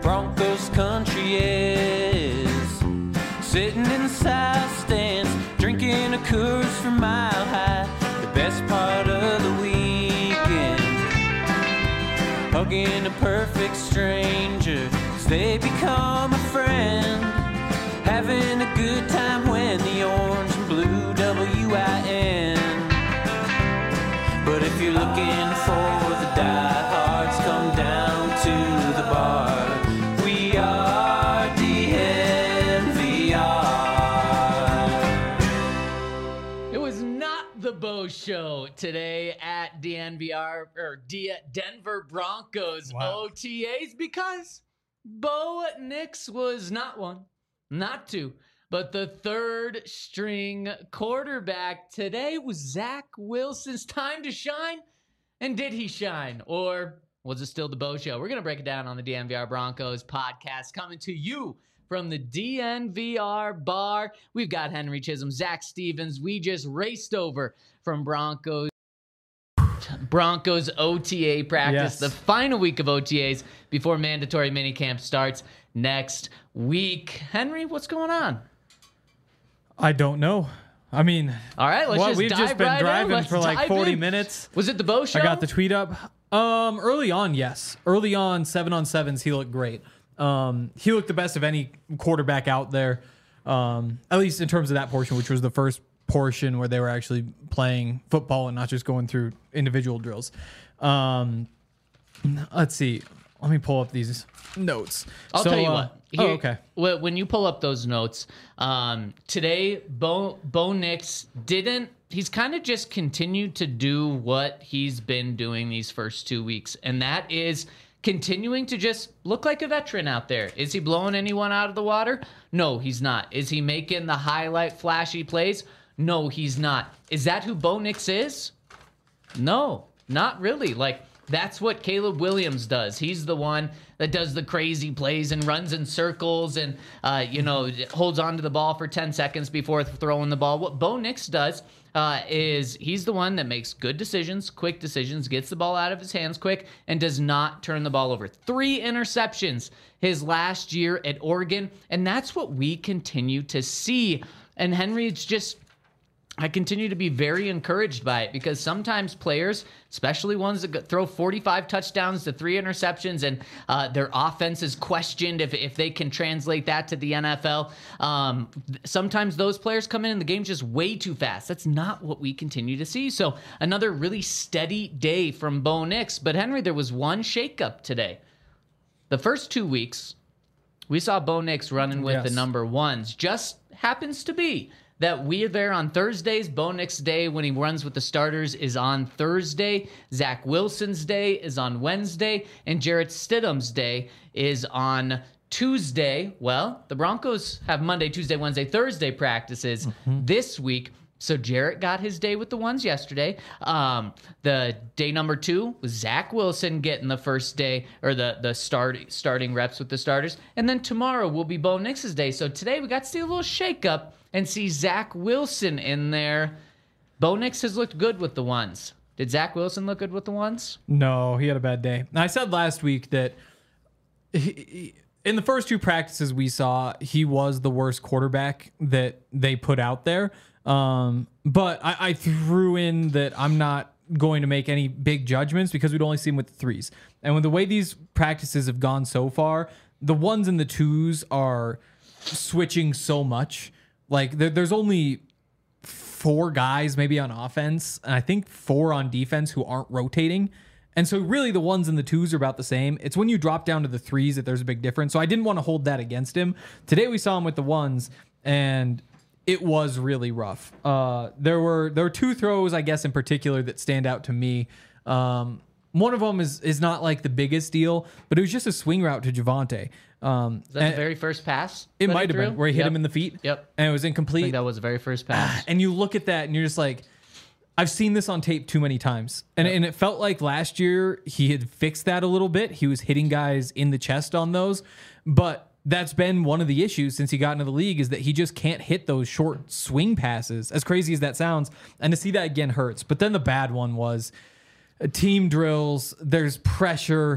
Broncos country is. Sitting in the south stands, drinking a Coors from Mile High. The best part of the weekend, hugging a perfect stranger as they become a friend. Having a good time when the orange and blue WIN. But if you're looking for the diehards, come down to the bar. We are DNVR. It was not the Bo Show today at DNVR or Denver Broncos OTAs because Bo Nix was not one, not two, but the third string quarterback. Today was Zach Wilson's time to shine. And did he shine? Or was it still the Bo Show? We're going to break it down on the DNVR Broncos podcast, coming to you from the DNVR bar. We've got Henry Chisholm, Zach Stevens. We just raced over from Broncos OTA practice, the final week of OTAs before mandatory minicamp starts next week. Henry, what's going on? I don't know. I mean, all right, we've just been driving for like 40 minutes. Was it the Bo Show? I got the tweet up. Early on, yes. Early on, 7-on-7s, he looked great. He looked the best of any quarterback out there, at least in terms of that portion, which was the first portion where they were actually playing football and not just going through individual drills. Let's see. Let me pull up these notes. I'll tell you what. Here, okay. When you pull up those notes, today, Bo Nix he's kind of just continued to do what he's been doing these first 2 weeks, and that is continuing to just look like a veteran out there. Is he blowing anyone out of the water? No, he's not. Is he making the highlight flashy plays? No, he's not. Is that who Bo Nix is? No, not really. Like, that's what Caleb Williams does. He's the one that does the crazy plays and runs in circles and, holds on to the ball for 10 seconds before throwing the ball. What Bo Nix does is he's the one that makes good decisions, quick decisions, gets the ball out of his hands quick, and does not turn the ball over. 3 interceptions his last year at Oregon, and that's what we continue to see. And Henry, I continue to be very encouraged by it because sometimes players, especially ones that throw 45 touchdowns to 3 interceptions and their offense is questioned if they can translate that to the NFL. Sometimes those players come in and the game's just way too fast. That's not what we continue to see. So another really steady day from Bo Nix. But Henry, there was one shakeup today. The first 2 weeks, we saw Bo Nix running with the number ones. Just happens to be that we are there on Thursdays. Bo Nix Day, when he runs with the starters, is on Thursday. Zach Wilson's day is on Wednesday. And Jarrett Stidham's day is on Tuesday. Well, the Broncos have Monday, Tuesday, Wednesday, Thursday practices this week. So Jarrett got his day with the ones yesterday. The day number 2 was Zach Wilson getting the first day, or the starting reps with the starters. And then tomorrow will be Bo Nix's day. So today we got to see a little shakeup and see Zach Wilson in there. Bo Nix has looked good with the ones. Did Zach Wilson look good with the ones? No, he had a bad day. I said last week that in the first 2 practices we saw, he was the worst quarterback that they put out there. But I threw in that I'm not going to make any big judgments because we'd only see him with the 3s. And with the way these practices have gone so far, the 1s and the 2s are switching so much. Like there's only 4 guys maybe on offense, and I think 4 on defense who aren't rotating. And so really the 1s and the 2s are about the same. It's when you drop down to the 3s that there's a big difference. So I didn't want to hold that against him. Today we saw him with the 1s, and it was really rough. There were 2 throws, I guess, in particular that stand out to me. One of them is not like the biggest deal, but it was just a swing route to Javonte. Is that the very first pass? It might have been where he hit him in the feet. Yep. And it was incomplete. I think that was the very first pass. And you look at that and you're just like, I've seen this on tape too many times. And it felt like last year he had fixed that a little bit. He was hitting guys in the chest on those. But that's been one of the issues since he got into the league, is that he just can't hit those short swing passes, as crazy as that sounds. And to see that again hurts. But then the bad one was team drills. There's pressure.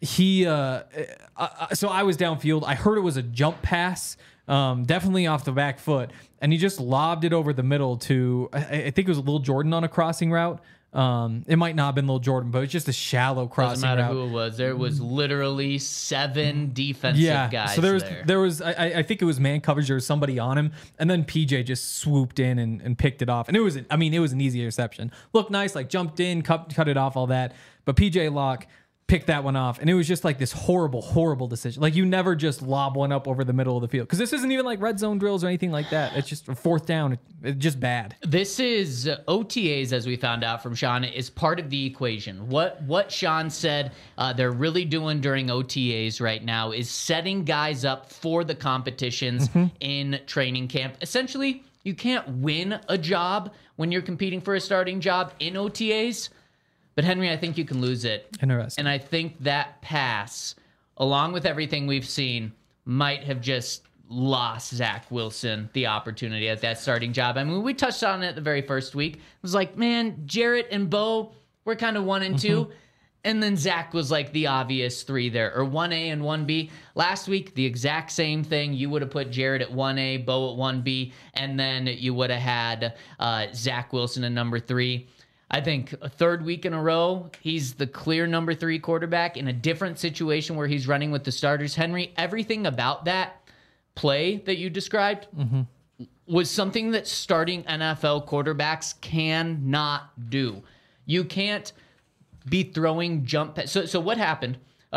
So I was downfield. I heard it was a jump pass, definitely off the back foot, and he just lobbed it over the middle to, I think it was Lil Jordan on a crossing route. It might not have been Lil Jordan, but it's just a shallow crossing Doesn't matter route. who it was. There was literally 7 defensive guys. So there. there was I think it was man coverage. There was somebody on him, and then PJ just swooped in and picked it off. And it was an easy interception. Looked nice, like jumped in, cut it off, all that. But PJ Locke picked that one off, and it was just like this horrible decision. Like, you never just lob one up over the middle of the field, because this isn't even like red zone drills or anything like that. It's just a fourth down. It's just bad. This is OTAs, as we found out from Sean, is part of the equation. What Sean said they're really doing during OTAs right now is setting guys up for the competitions in training camp. Essentially, you can't win a job when you're competing for a starting job in OTAs. But Henry, I think you can lose it. Interesting. And I think that pass, along with everything we've seen, might have just lost Zach Wilson the opportunity at that starting job. I mean, we touched on it the very first week. It was like, man, Jarrett and Bo were kind of 1 and 2. And then Zach was like the obvious 3 there, or 1A and 1B. Last week, the exact same thing. You would have put Jarrett at 1A, Bo at 1B, and then you would have had Zach Wilson at number 3. I think a third week in a row, he's the clear number 3 quarterback in a different situation where he's running with the starters. Henry, everything about that play that you described was something that starting NFL quarterbacks cannot do. You can't be throwing jump. So what happened?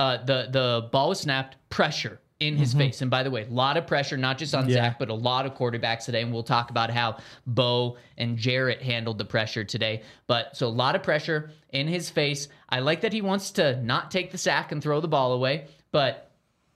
The ball was snapped, pressure in his face. And by the way, a lot of pressure, not just on Zach, but a lot of quarterbacks today. And we'll talk about how Bo and Jarrett handled the pressure today. But so a lot of pressure in his face. I like that he wants to not take the sack and throw the ball away. But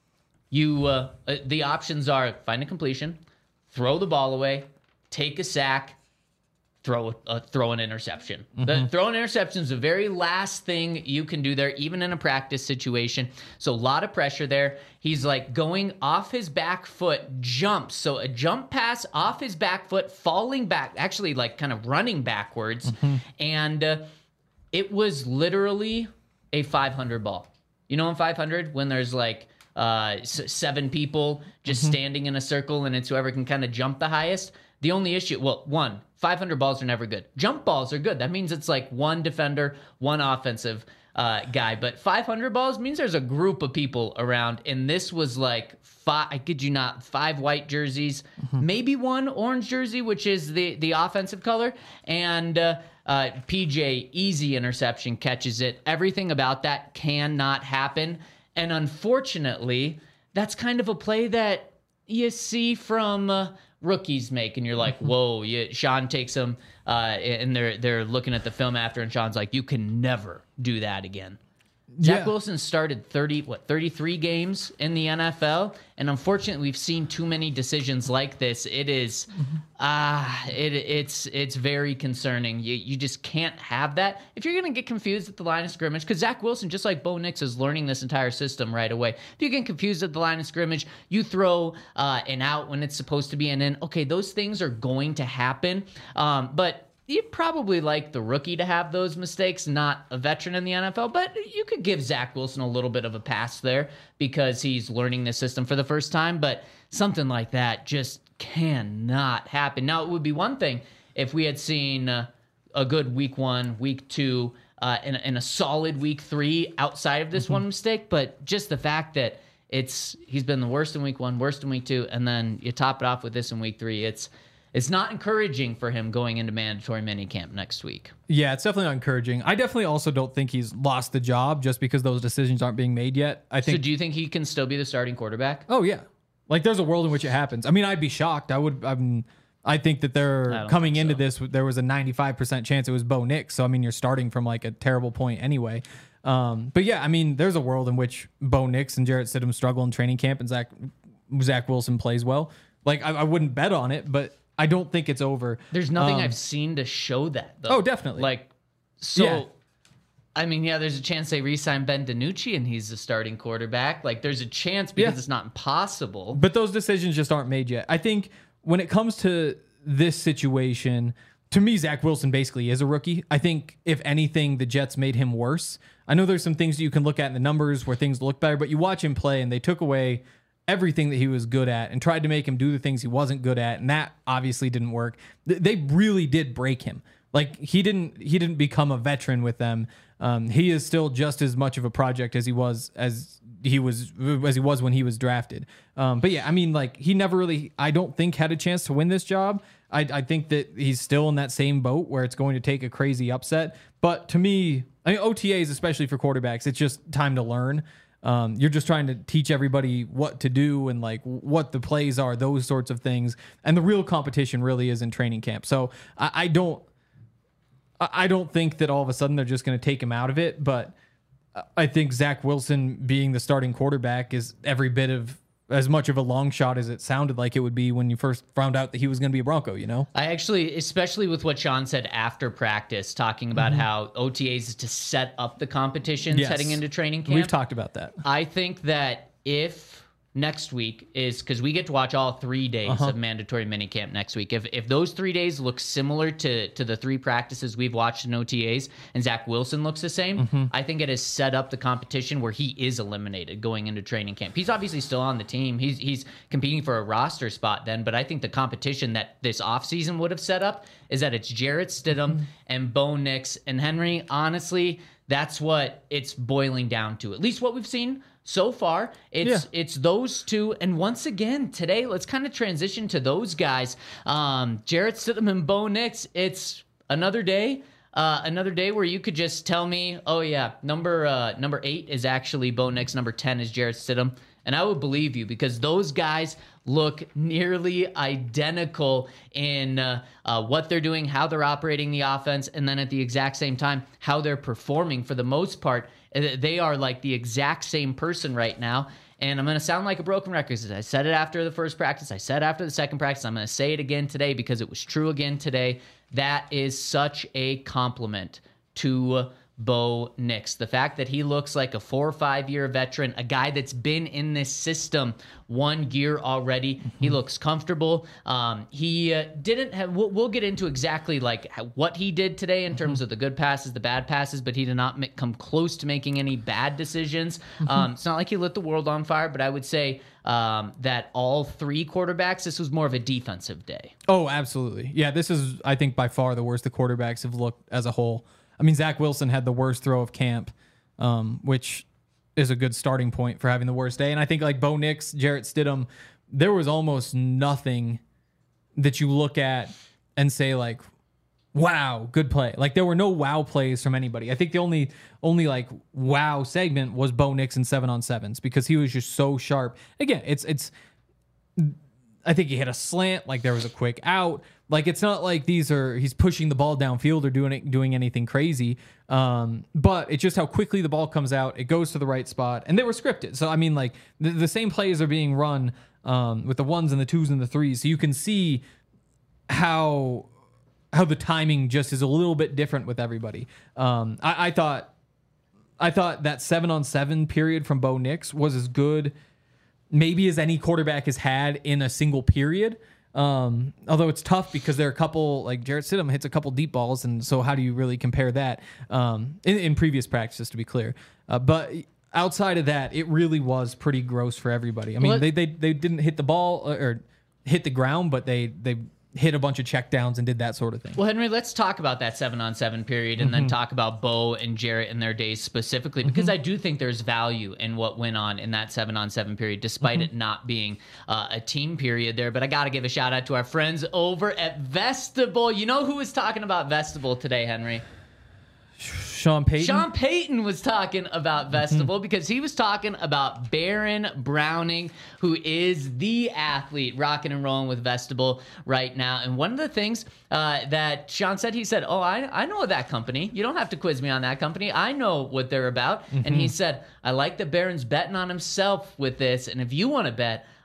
the options are find a completion, throw the ball away, take a sack, throw an interception. Throw an interception is the very last thing you can do there, even in a practice situation. So a lot of pressure there. He's like going off his back foot, jumps. So a jump pass off his back foot, falling back, actually like kind of running backwards. And it was literally a 500 ball. You know, in 500, when there's like 7 people just standing in a circle and it's whoever can kind of jump the highest. The only issue, 500 balls are never good. Jump balls are good. That means it's like 1 defender, 1 offensive guy. But 500 balls means there's a group of people around. And this was like 5, I kid you not, 5 white jerseys, maybe 1 orange jersey, which is the offensive color. And PJ, easy interception, catches it. Everything about that cannot happen. And unfortunately, that's kind of a play that you see from rookies make, and you're like, whoa. Sean takes them, and they're looking at the film after, and Sean's like, you can never do that again. Zach Wilson started 33 games in the NFL, and unfortunately, we've seen too many decisions like this. It is, it's very concerning. You just can't have that. If you're gonna get confused at the line of scrimmage, because Zach Wilson, just like Bo Nix, is learning this entire system right away. If you get confused at the line of scrimmage, you throw an out when it's supposed to be an in. Okay, those things are going to happen, but you'd probably like the rookie to have those mistakes, not a veteran in the NFL. But you could give Zach Wilson a little bit of a pass there because he's learning the system for the first time. But something like that just cannot happen. Now, it would be one thing if we had seen a good week 1, week 2, and a solid week 3 outside of this one mistake. But just the fact that he's been the worst in week 1, worst in week 2, and then you top it off with this in week 3, it's not encouraging for him going into mandatory minicamp next week. Yeah, it's definitely not encouraging. I definitely also don't think he's lost the job just because those decisions aren't being made yet. So do you think he can still be the starting quarterback? Oh, yeah. Like, there's a world in which it happens. I mean, I'd be shocked. I think that they're coming into this, there was a 95% chance it was Bo Nix. So, I mean, you're starting from like a terrible point anyway. But yeah, I mean, there's a world in which Bo Nix and Jarrett Stidham struggle in training camp and Zach Wilson plays well. Like, I wouldn't bet on it, but I don't think it's over. There's nothing I've seen to show that, though. Oh, definitely. Like, so, yeah. I mean, yeah, there's a chance they re-sign Ben DiNucci and he's the starting quarterback. Like, there's a chance because it's not impossible. But those decisions just aren't made yet. I think when it comes to this situation, to me, Zach Wilson basically is a rookie. I think, if anything, the Jets made him worse. I know there's some things that you can look at in the numbers where things look better, but you watch him play and they took away everything that he was good at and tried to make him do the things he wasn't good at, and that obviously didn't work. They really did break him. Like, he didn't become a veteran with them. He is still just as much of a project as he was when he was drafted. But yeah, I mean, like, he never really, I don't think, had a chance to win this job. I think that he's still in that same boat where it's going to take a crazy upset. But to me, I mean, OTAs, especially for quarterbacks, it's just time to learn. You're just trying to teach everybody what to do and like what the plays are, those sorts of things. And the real competition really is in training camp. So I don't think that all of a sudden they're just going to take him out of it. But I think Zach Wilson being the starting quarterback is every bit of as much of a long shot as it sounded like it would be when you first found out that he was going to be a Bronco, you know? I actually, especially with what Sean said after practice, talking about how OTAs is to set up the competitions heading into training camp. We've talked about that. I think that if next week is, because we get to watch all 3 days of mandatory minicamp next week. If those 3 days look similar to the 3 practices we've watched in OTAs and Zach Wilson looks the same, I think it has set up the competition where he is eliminated going into training camp. He's obviously still on the team. He's competing for a roster spot then, but I think the competition that this offseason would have set up is that it's Jarrett Stidham and Bo Nix. And Henry, honestly, that's what it's boiling down to. At least what we've seen so far, it's those two. And once again, today, let's kind of transition to those guys. Jarrett Stidham and Bo Nix, it's another day where you could just tell me, oh yeah, number 8 is actually Bo Nix, number 10 is Jarrett Stidham. And I would believe you, because those guys look nearly identical in what they're doing, how they're operating the offense, and then at the exact same time, how they're performing. For the most part, they are like the exact same person right now. And I'm going to sound like a broken record. I said it after the first practice. I said after the second practice. I'm going to say it again today because it was true again today. That is such a compliment to Bo Nix. The fact that he looks like a 4 or 5 year veteran, a guy that's been in this system 1 year already. He looks comfortable. He didn't have, we'll get into exactly like what he did today in terms of the good passes, the bad passes, but he did not come close to making any bad decisions. It's not like he lit the world on fire, but I would say that all 3 quarterbacks, this was more of a defensive day. Oh, absolutely. Yeah, this is, I think, by far the worst the quarterbacks have looked as a whole. I mean, Zach Wilson had the worst throw of camp, which is a good starting point for having the worst day. And I think like Bo Nix, Jarrett Stidham, there was almost nothing that you look at and say like, wow, good play. Like there were no wow plays from anybody. I think the only like wow segment was Bo Nix in 7-on-7s because he was just so sharp. Again, it's I think he hit a slant, like there was a quick out. Like it's not like he's pushing the ball downfield or doing anything crazy. But it's just how quickly the ball comes out, it goes to the right spot, and they were scripted. So I mean, like the same plays are being run with the 1s and the 2s and the 3s. So you can see how the timing just is a little bit different with everybody. I thought that 7-on-7 period from Bo Nix was as good maybe as any quarterback has had in a single period. Although it's tough because there are a couple, like Jarrett Stidham hits a couple deep balls, and so how do you really compare that in previous practices, to be clear? But outside of that, it really was pretty gross for everybody. I mean, they didn't hit the ball or hit the ground, but they hit a bunch of checkdowns and did that sort of thing. Well, Henry, let's talk about that 7-on-7 period and then talk about Bo and Jarrett and their days specifically, because I do think there's value in what went on in that 7-on-7 period, despite it not being a team period there. But I got to give a shout out to our friends over at Vestibule. You know who was talking about Vestibule today, Henry? Sean Payton? Sean Payton was talking about Vestibule because he was talking about Baron Browning, who is the athlete rocking and rolling with Vestibule right now. And one of the things that Sean said, he said, oh, I know that company. You don't have to quiz me on that company. I know what they're about. And he said, I like that Baron's betting on himself with this. And if you want to bet,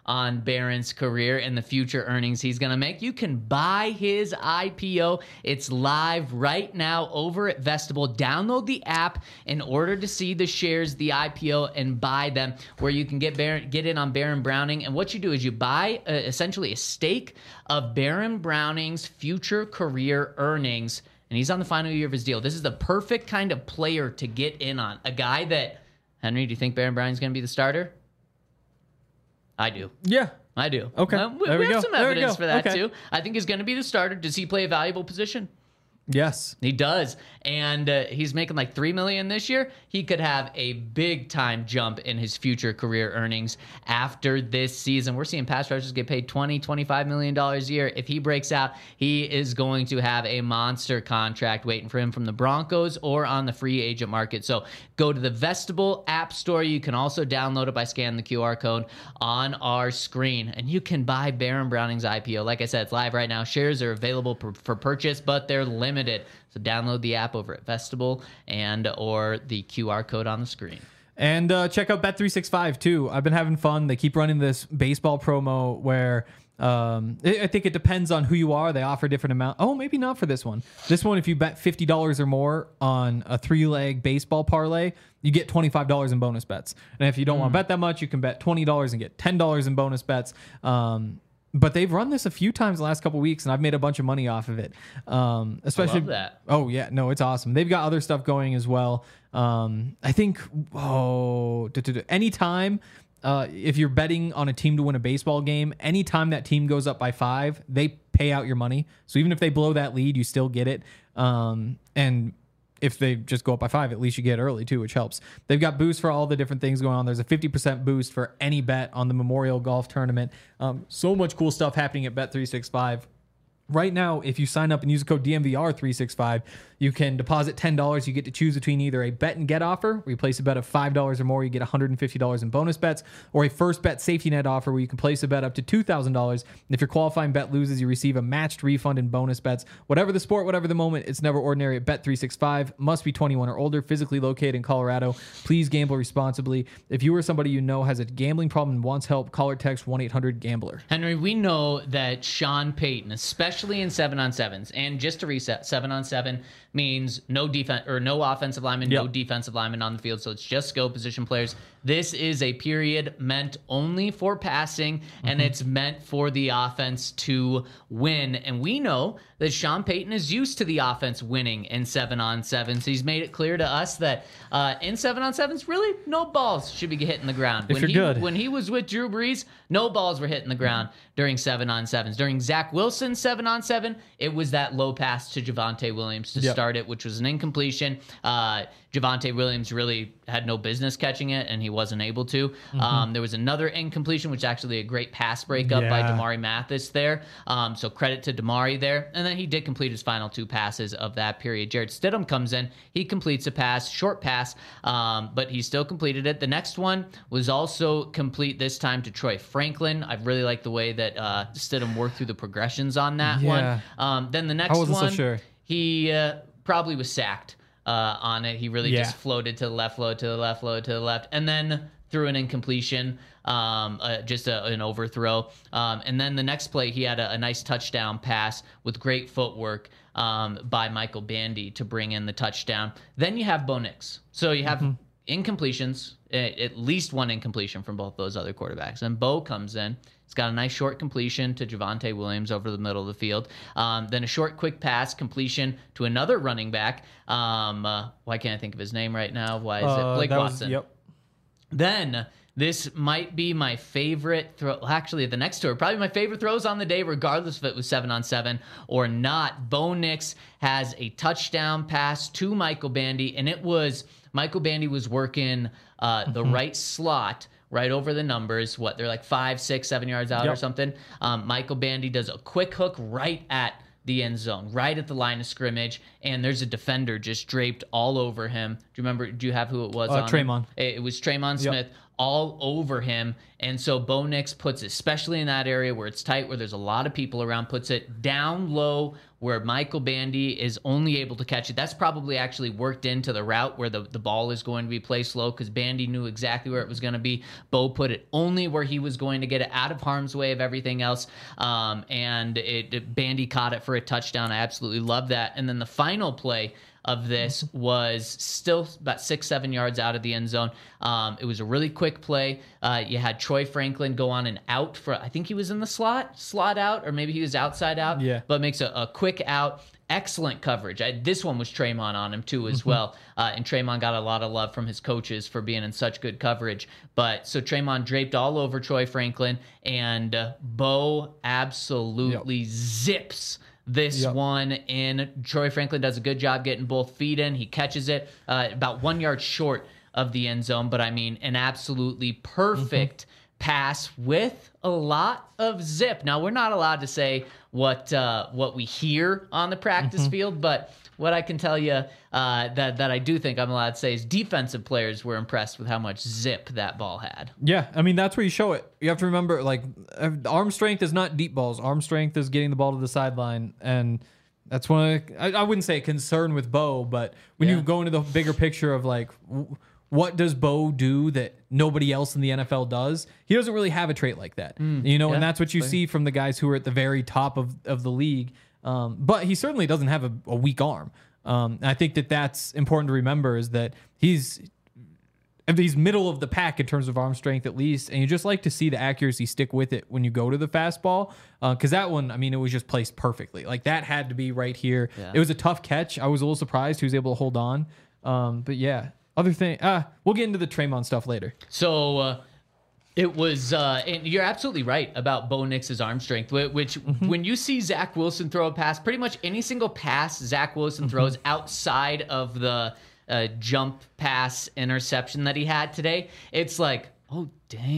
on Barron's career and the future earnings he's going to make, you can buy his IPO. It's live right now over at Vestibule. Download the app in order to see the shares, the IPO, and buy them, where you can get in on Baron Browning. And what you do is you buy essentially a stake of Baron Browning's future career earnings, and he's on the final year of his deal. This is the perfect kind of player to get in on. A guy that, Henry, do you think Baron Browning's going to be the starter? I do. Yeah. I do. Okay. We have some evidence for that, okay. too. I think he's going to be the starter. Does he play a valuable position? Yes. He does. And he's making like $3 million this year. He could have a big time jump in his future career earnings after this season. We're seeing pass rushers get paid $20, $25 million a year. If he breaks out, he is going to have a monster contract waiting for him from the Broncos or on the free agent market. So go to the Vestibule App Store. You can also download it by scanning the QR code on our screen, and you can buy Baron Browning's IPO. Like I said, it's live right now. Shares are available for purchase, but they're limited. So download the app over at Vestibule or the QR code on the screen. And check out Bet365 too. I've been having fun. They keep running this baseball promo where I think it depends on who you are. They offer different amount. Oh, maybe not for this one. This one, if you bet $50 or more on a 3-leg baseball parlay, you get $25 in bonus bets. And if you don't want to bet that much, you can bet $20 and get $10 in bonus bets. But they've run this a few times the last couple of weeks, and I've made a bunch of money off of it. Especially, I love that. Oh yeah, no, it's awesome. They've got other stuff going as well. I think anytime if you're betting on a team to win a baseball game, anytime that team goes up by 5, they pay out your money. So even if they blow that lead, you still get it. And if they just go up by 5, at least you get early too, which helps. They've got boosts for all the different things going on. There's a 50% boost for any bet on the Memorial Golf Tournament. So much cool stuff happening at Bet365. Right now, if you sign up and use the code DMVR365, you can deposit $10. You get to choose between either a bet and get offer, where you place a bet of $5 or more, you get $150 in bonus bets, or a first bet safety net offer, where you can place a bet up to $2,000. And if your qualifying bet loses, you receive a matched refund in bonus bets. Whatever the sport, whatever the moment, it's never ordinary at Bet365. Must be 21 or older, physically located in Colorado. Please gamble responsibly. If you or somebody you know has a gambling problem and wants help, call or text 1-800-GAMBLER. Henry, we know that Sean Payton, especially in 7-on-7s, and just to reset, 7-on-7 means no defense or no offensive lineman, no defensive lineman on the field. So it's just skill position players. This is a period meant only for passing, and it's meant for the offense to win. And we know that Sean Payton is used to the offense winning in 7-on-7s. He's made it clear to us that in 7-on-7s, really no balls should be hitting the ground. When he was with Drew Brees, no balls were hitting the ground during 7-on-7s. During Zach Wilson's 7-on-7, it was that low pass to Javonte Williams to start it, which was an incompletion. Javonte Williams really had no business catching it, and he wasn't able to. There was another incompletion, which is actually a great pass breakup by Damari Mathis there. So credit to Damari there. And then he did complete his final 2 passes of that period. Jarrett Stidham comes in. He completes a pass, short pass, but he still completed it. The next one was also complete, this time to Troy Franklin. I really like the way that Stidham worked through the progressions on that one. Then the next one, so sure. He probably was sacked on it. He really just floated to the left, floated to the left, floated to the left, and then threw an incompletion, just an overthrow. And then the next play, he had a nice touchdown pass with great footwork by Michael Bandy to bring in the touchdown. Then you have Bo Nix. So you have incompletions, at least one incompletion from both those other quarterbacks. And Bo comes in. He's got a nice short completion to Javonte Williams over the middle of the field. Then a short, quick pass completion to another running back. Why can't I think of his name right now? Why is it Blake Watson? Then this might be my favorite throw. Actually, the next two are probably my favorite throws on the day, regardless if it was 7-on-7 or not. Bo Nix has a touchdown pass to Michael Bandy, and it was Michael Bandy was working the right slot, right over the numbers. They're like 5, 6, 7 yards out or something. Michael Bandy does a quick hook right at the end zone, right at the line of scrimmage, and there's a defender just draped all over him. Do you have who it was? Tremon. It was Tremon Smith all over him. And so Bo Nix puts, especially in that area where it's tight, where there's a lot of people around, puts it down low where Michael Bandy is only able to catch it. That's probably actually worked into the route where the ball is going to be placed low, because Bandy knew exactly where it was going to be. Bo put it only where he was going to get it, out of harm's way of everything else. And Bandy caught it for a touchdown. I absolutely love that. And then the final play of this was still about 6-7 yards out of the end zone. It was a really quick play. You had Troy Franklin go on and out for, I think he was in the slot out, or maybe he was outside out. Yeah. But makes a quick out. Excellent coverage. This one was Traymon on him too as well. And Traymon got a lot of love from his coaches for being in such good coverage. But so Traymon draped all over Troy Franklin, and Bo absolutely zips this one in. Troy Franklin does a good job getting both feet in. He catches it about 1 yard short of the end zone. But I mean, an absolutely perfect pass with a lot of zip. Now, we're not allowed to say what we hear on the practice field, but what I can tell you that I do think I'm allowed to say is defensive players were impressed with how much zip that ball had. Yeah, I mean, that's where you show it. You have to remember, like, arm strength is not deep balls. Arm strength is getting the ball to the sideline, and that's one of, I wouldn't say a concern with Bo, but when you go into the bigger picture of, like, what does Bo do that nobody else in the NFL does? He doesn't really have a trait like that, and that's what you see from the guys who are at the very top of the league. But he certainly doesn't have a weak arm. I think that's important to remember, is that he's middle of the pack in terms of arm strength, at least. And you just like to see the accuracy stick with it when you go to the fastball. Because that one, I mean, it was just placed perfectly. Like, that had to be right here. Yeah. It was a tough catch. I was a little surprised he was able to hold on. But yeah, other thing, we'll get into the Traymon stuff later. So, it was, and you're absolutely right about Bo Nix's arm strength, which when you see Zach Wilson throw a pass, pretty much any single pass Zach Wilson throws outside of the jump pass interception that he had today, it's like, oh,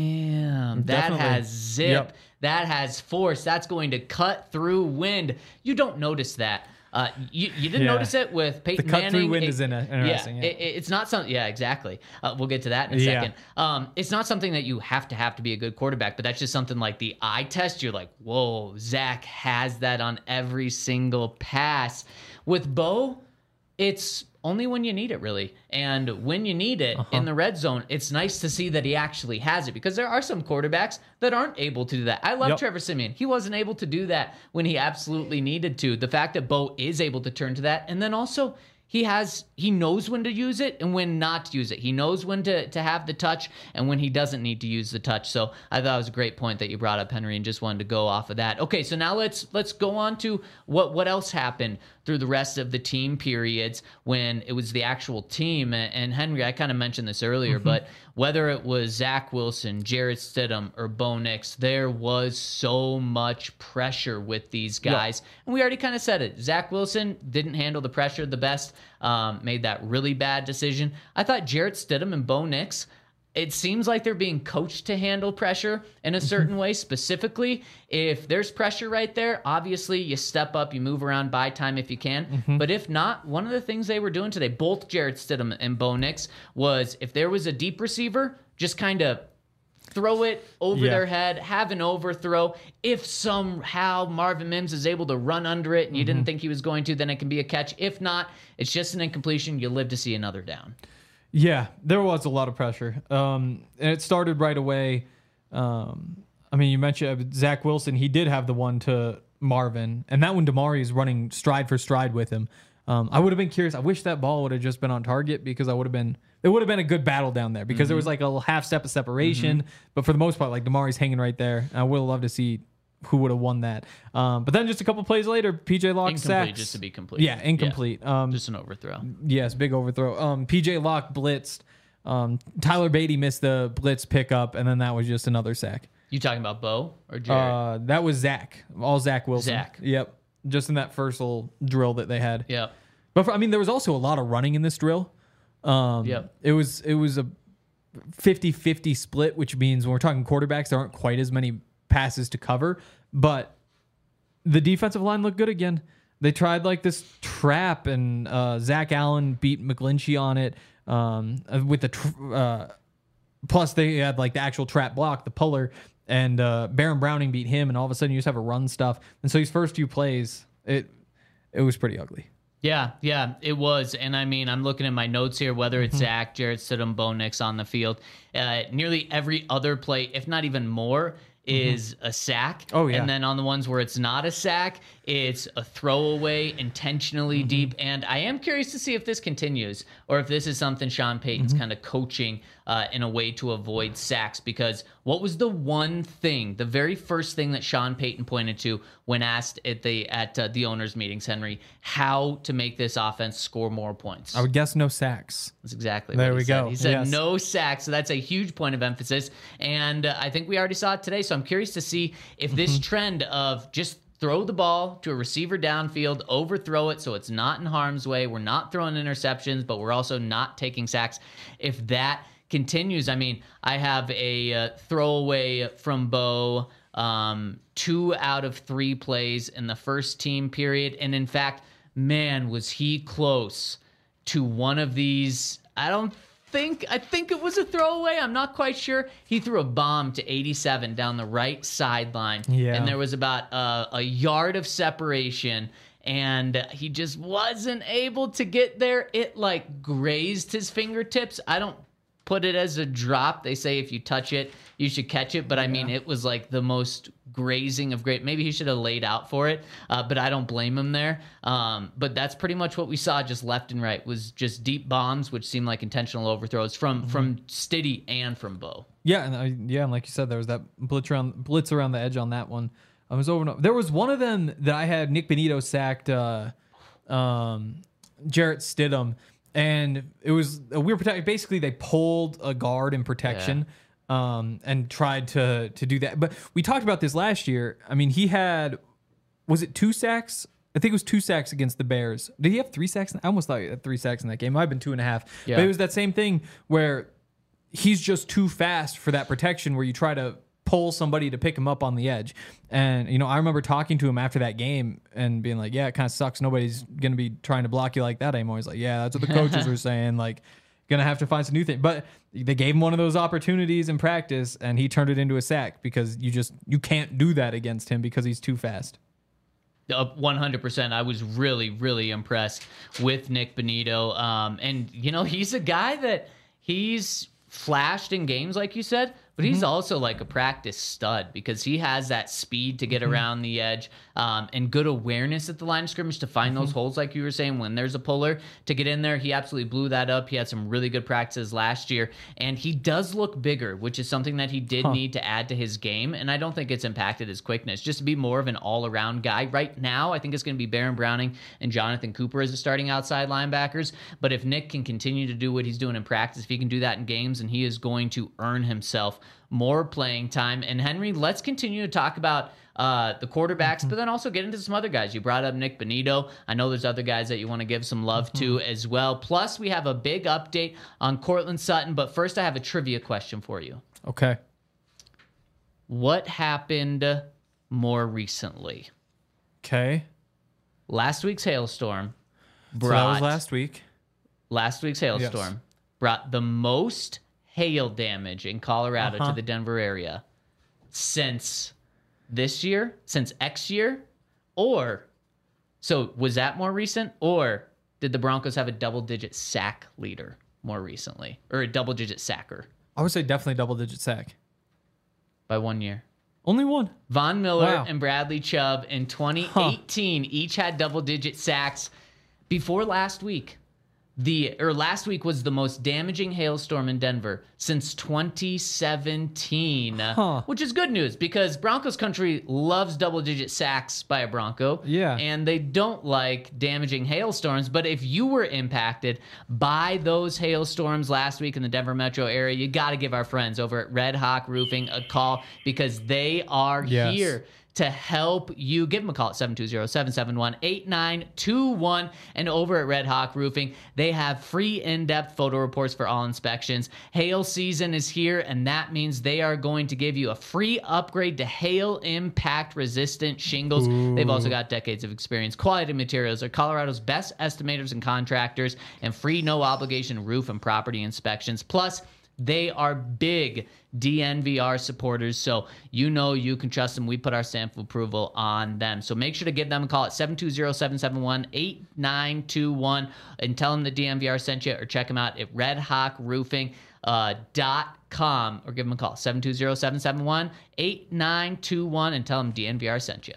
damn, that has zip, that has force, that's going to cut through wind. You don't notice that. You didn't notice it with Peyton Manning. The cut through wind is interesting. It's not something. Yeah, exactly. We'll get to that in a second. It's not something that you have to be a good quarterback, but that's just something like the eye test. You're like, whoa, Zach has that on every single pass. With Bo, it's only when you need it, really. And when you need it in the red zone, it's nice to see that he actually has it, because there are some quarterbacks that aren't able to do that. I love Trevor Siemian. He wasn't able to do that when he absolutely needed to. The fact that Bo is able to turn to that, and then also he knows when to use it and when not to use it. He knows when to have the touch and when he doesn't need to use the touch. So I thought it was a great point that you brought up, Henry, and just wanted to go off of that. Okay, so now let's go on to what else happened through the rest of the team periods when it was the actual team. And Henry, I kind of mentioned this earlier, but whether it was Zach Wilson, Jarrett Stidham, or Bo Nix, there was so much pressure with these guys. And we already kind of said it. Zach Wilson didn't handle the pressure the best, made that really bad decision. I thought Jarrett Stidham and Bo Nix, it seems like they're being coached to handle pressure in a certain way. Specifically, if there's pressure right there, obviously you step up, you move around, buy time if you can. But if not, one of the things they were doing today, both Jarrett Stidham and Bo Nix, was if there was a deep receiver, just kind of throw it over their head, have an overthrow. If somehow Marvin Mims is able to run under it and you didn't think he was going to, then it can be a catch. If not, it's just an incompletion. You live to see another down. Yeah, there was a lot of pressure. And it started right away. I mean, you mentioned Zach Wilson. He did have the one to Marvin, and that one Damari is running stride for stride with him. I would have been curious. I wish that ball would have just been on target, because it would have been a good battle down there, because there was like a half step of separation. But for the most part, like, Damari's hanging right there. I would have loved to see who would have won that. But then just a couple plays later, PJ Locke sacks. Just to be complete. Yeah, incomplete. Just an overthrow. Yes, big overthrow. PJ Locke blitzed. Tyler Beatty missed the blitz pickup, and then that was just another sack. You talking about Bo or Jared? That was Zach. All Zach Wilson. Zach. Yep. Just in that first little drill that they had. Yep. But there was also a lot of running in this drill. It was a 50-50 split, which means when we're talking quarterbacks, there aren't quite as many passes to cover, but the defensive line looked good again. They tried like this trap, and Zach Allen beat McGlinchey on it with the plus they had like the actual trap block, the puller, and Baron Browning beat him, and all of a sudden you just have a run stuff. And so these first few plays, it was pretty ugly. Yeah, it was. And I mean, I'm looking at my notes here, whether it's Zach, Jarrett Stidham, Bo Nix on the field. Nearly every other play, if not even more, is a sack. Oh, yeah. And then on the ones where it's not a sack, it's a throwaway, intentionally deep. And I am curious to see if this continues or if this is something Sean Payton's kind of coaching in a way to avoid sacks. Because what was the one thing, the very first thing that Sean Payton pointed to when asked at the owners' meetings, Henry, how to make this offense score more points? I would guess no sacks. That's exactly There what we he said. go. He said Yes. no sacks, so that's a huge point of emphasis. And I think we already saw it today, so I'm curious to see if this trend of just throw the ball to a receiver downfield, overthrow it so it's not in harm's way, we're not throwing interceptions, but we're also not taking sacks, if that continues. I mean, I have a throwaway from Bo, 2 out of 3 plays in the first team period. And in fact, man, was he close to one of these. I think it was a throwaway. I'm not quite sure. He threw a bomb to 87 down the right sideline. Yeah. And there was about a yard of separation, and he just wasn't able to get there. It like grazed his fingertips. I don't put it as a drop. They say if you touch it, you should catch it. But I mean, it was like the most grazing of great. Maybe he should have laid out for it, but I don't blame him there. But that's pretty much what we saw, just left and right, was just deep bombs, which seemed like intentional overthrows from Stiddy and from Bo. Yeah, and like you said, there was that blitz around the edge on that one. I was over. There was one of them that I had Nick Benito sacked Jarrett Stidham, and it was a weird protection. Basically, they pulled a guard in protection. And tried to do that. But we talked about this last year. I mean, he had, was it 2 sacks? I think it was 2 sacks against the Bears. Did he have 3 sacks? I almost thought he had 3 sacks in that game. It might have been 2.5. Yeah. But it was that same thing where he's just too fast for that protection, where you try to pull somebody to pick him up on the edge. And, you know, I remember talking to him after that game and being like, yeah, it kind of sucks. Nobody's going to be trying to block you like that anymore. He's like, yeah, that's what the coaches were saying. Like, gonna have to find some new thing. But they gave him one of those opportunities in practice, and he turned it into a sack because you can't do that against him because he's too fast. 100%. I was really, really impressed with Nick Benito. And, you know, he's a guy that he's flashed in games, like you said, but he's also like a practice stud because he has that speed to get around the edge and good awareness at the line of scrimmage to find those holes, like you were saying, when there's a puller to get in there. He absolutely blew that up. He had some really good practices last year, and he does look bigger, which is something that he did need to add to his game, and I don't think it's impacted his quickness. Just to be more of an all-around guy. Right now, I think it's going to be Baron Browning and Jonathan Cooper as the starting outside linebackers, but if Nick can continue to do what he's doing in practice, if he can do that in games, and he is going to earn himself more playing time. And Henry, let's continue to talk about the quarterbacks, but then also get into some other guys. You brought up Nick Benito. I know there's other guys that you want to give some love to as well. Plus, we have a big update on Courtland Sutton. But first, I have a trivia question for you. Okay. What happened more recently? Okay. Last week's hailstorm So that was last week. Last week's hailstorm brought the most hail damage in Colorado to the Denver area since this year, since X year, or so was that more recent, or did the Broncos have a double-digit sack leader more recently, or a double-digit sacker I would say definitely double-digit sack. by 1 year? Only one. Von Miller Wow. and Bradley Chubb in 2018 each had double-digit sacks. Before last week, last week was the most damaging hailstorm in Denver since 2017, which is good news because Broncos country loves double-digit sacks by a Bronco. Yeah. And they don't like damaging hailstorms. But if you were impacted by those hailstorms last week in the Denver metro area, you got to give our friends over at Red Hawk Roofing a call because they are here to help you. Give them a call at 720-771-8921. And over at Red Hawk Roofing, they have free in-depth photo reports for all inspections. Hail season is here, and that means they are going to give you a free upgrade to hail impact resistant shingles. They've also got decades of experience. Quality materials are Colorado's best estimators and contractors, and free no obligation roof and property inspections. Plus, They are big DNVR supporters, so you know you can trust them. We put our stamp of approval on them. So make sure to give them a call at 720-771-8921 and tell them the DNVR sent you, or check them out at redhawkroofing.com, or give them a call, 720-771-8921, and tell them DNVR sent you.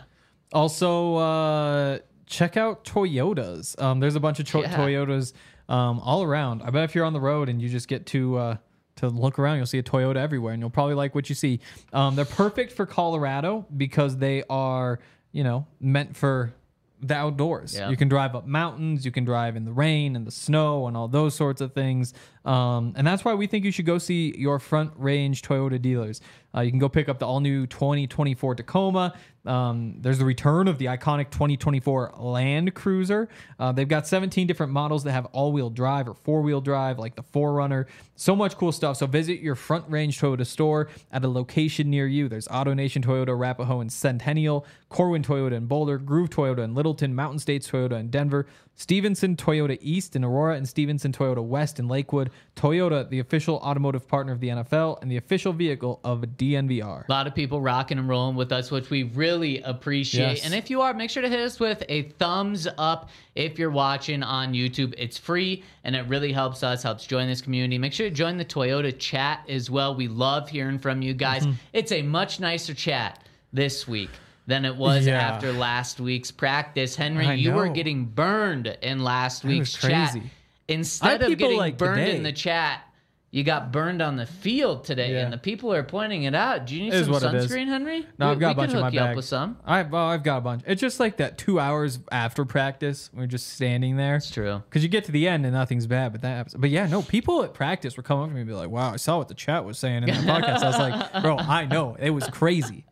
Also, check out Toyotas. There's a bunch of Toyotas all around. I bet if you're on the road and you just get to look around, you'll see a Toyota everywhere, and you'll probably like what you see. They're perfect for Colorado because they are, meant for the outdoors. Yeah. You can drive up mountains, you can drive in the rain and the snow and all those sorts of things. And that's why we think you should go see your Front Range Toyota dealers. You can go pick up the all-new 2024 Tacoma. There's the return of the iconic 2024 Land Cruiser. They've got 17 different models that have all-wheel drive or four-wheel drive, like the 4Runner. So much cool stuff. So visit your Front Range Toyota store at a location near you. There's AutoNation Toyota, Arapahoe, and Centennial, Corwin Toyota in Boulder, Groove Toyota in Littleton, Mountain States Toyota in Denver, Stevenson Toyota East in Aurora, and Stevenson Toyota West in Lakewood. Toyota, the official automotive partner of the NFL and the official vehicle of DNVR. A lot of people rocking and rolling with us, which we really appreciate. Yes. And if you are, make sure to hit us with a thumbs up if you're watching on YouTube. It's free, and it really helps us, helps join this community. Make sure to join the Toyota chat as well. We love hearing from you guys. It's a much nicer chat this week than it was after last week's practice. Henry, you were getting burned in last week's chat. Instead of getting burned in the chat, you got burned on the field today, and the people are pointing it out. Do you need some sunscreen, Henry? No, I've got a bunch in my bag. We can hook you bag. up with some. I've got a bunch. It's just like that 2 hours after practice, we're just standing there. It's true. Because you get to the end and nothing's bad, but that happens. But yeah, no, people at practice were coming up to me and be like, wow, I saw what the chat was saying in the podcast. I was like, bro, I know. It was crazy.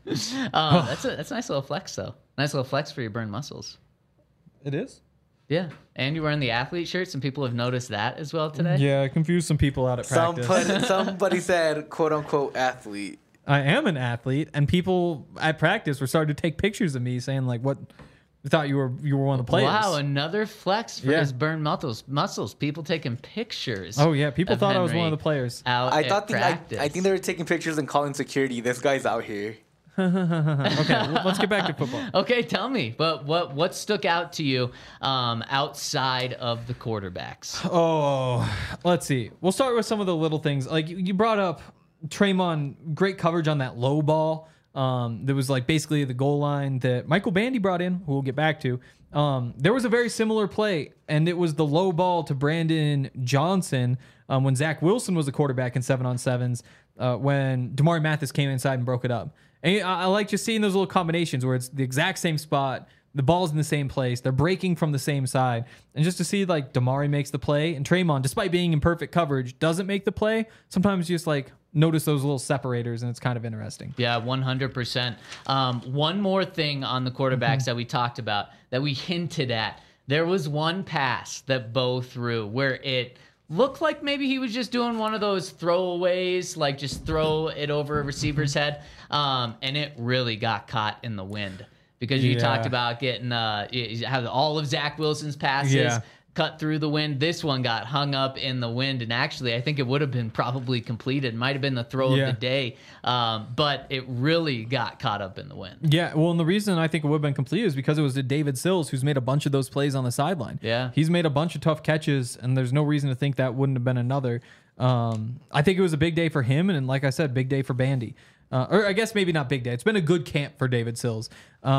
That's a nice little flex, though. Nice little flex for your burned muscles. It is? Yeah. And you're wearing the athlete shirt. Some people have noticed that as well today. Yeah, I confused some people out at practice. Somebody said, quote unquote, athlete. I am an athlete, and people at practice were starting to take pictures of me saying, like, what? I thought you were one of the players. Wow, another flex for his burned muscles. People taking pictures. Oh, yeah. People thought I was one of the players. I think they were taking pictures and calling security. This guy's out here. Okay, let's get back to football. Okay, tell me, but what stuck out to you outside of the quarterbacks? Oh, let's see. We'll start with some of the little things. Like you brought up Tremon, great coverage on that low ball. There was like basically the goal line that Michael Bandy brought in, who we'll get back to. There was a very similar play, and it was the low ball to Brandon Johnson when Zach Wilson was the quarterback in 7-on-7s when Damari Mathis came inside and broke it up. And I like just seeing those little combinations where it's the exact same spot, the ball's in the same place, they're breaking from the same side. And just to see like Damari makes the play and Tremon, despite being in perfect coverage, doesn't make the play. Sometimes you just like notice those little separators, and it's kind of interesting. Yeah, 100%. One more thing on the quarterbacks that we talked about, that we hinted at. There was one pass that Bo threw where it looked like maybe he was just doing one of those throwaways, like just throw it over a receiver's head, and it really got caught in the wind. Because you talked about getting you have all of Zach Wilson's passes cut through the wind. This one got hung up in the wind, and actually I think it would have been probably completed. Might have been the throw of the day, but it really got caught up in the wind. Yeah, well, and the reason I think it would have been completed is because it was to David Sills, who's made a bunch of those plays on the sideline. Yeah. He's made a bunch of tough catches, and there's no reason to think that wouldn't have been another. I think it was a big day for him, and like I said, big day for Bandy. Or I guess maybe not big day. It's been a good camp for David Sills.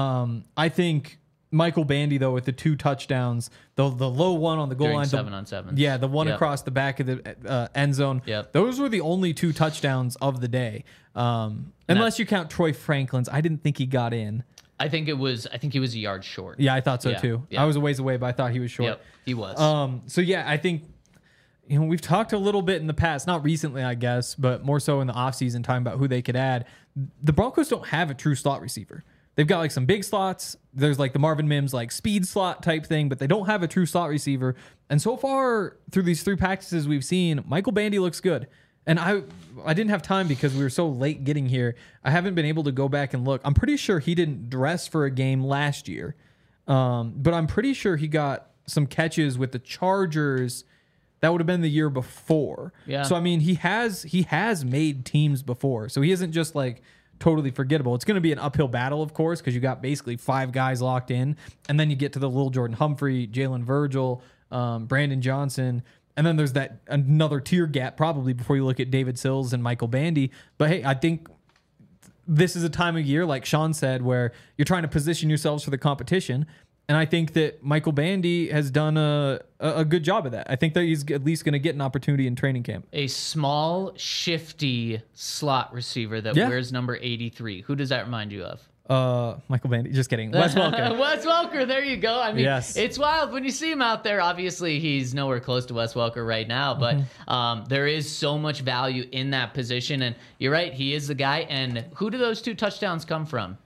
I think Michael Bandy, though, with the 2 touchdowns, the low one on the goal line. 7-on-7. Yeah, the one across the back of the end zone. Yep. Those were the only 2 touchdowns of the day. Unless you count Troy Franklin's. I didn't think he got in. I think he was a yard short. Yeah, I thought so too. Yeah. I was a ways away, but I thought he was short. Yep, he was. So yeah, I think we've talked a little bit in the past, not recently, I guess, but more so in the offseason time about who they could add. The Broncos don't have a true slot receiver. They've got like some big slots. There's like the Marvin Mims like speed slot type thing, but they don't have a true slot receiver. And so far through these 3 practices we've seen, Michael Bandy looks good. And I didn't have time because we were so late getting here. I haven't been able to go back and look. I'm pretty sure he didn't dress for a game last year. But I'm pretty sure he got some catches with the Chargers that would have been the year before. Yeah. So I mean, he has made teams before. So he isn't just like totally forgettable. It's going to be an uphill battle, of course, because you got basically 5 guys locked in, and then you get to the little Jordan Humphrey, Jalen Virgil, Brandon Johnson, and then there's that another tier gap probably before you look at David Sills and Michael Bandy. But hey, I think this is a time of year, like Sean said, where you're trying to position yourselves for the competition. And I think that Michael Bandy has done a good job of that. I think that he's at least going to get an opportunity in training camp. A small, shifty slot receiver that wears number 83. Who does that remind you of? Michael Bandy. Just kidding. Wes Welker. Wes Welker. There you go. I mean, yes. It's wild when you see him out there. Obviously, he's nowhere close to Wes Welker right now, but there is so much value in that position. And you're right. He is the guy. And who do those 2 touchdowns come from?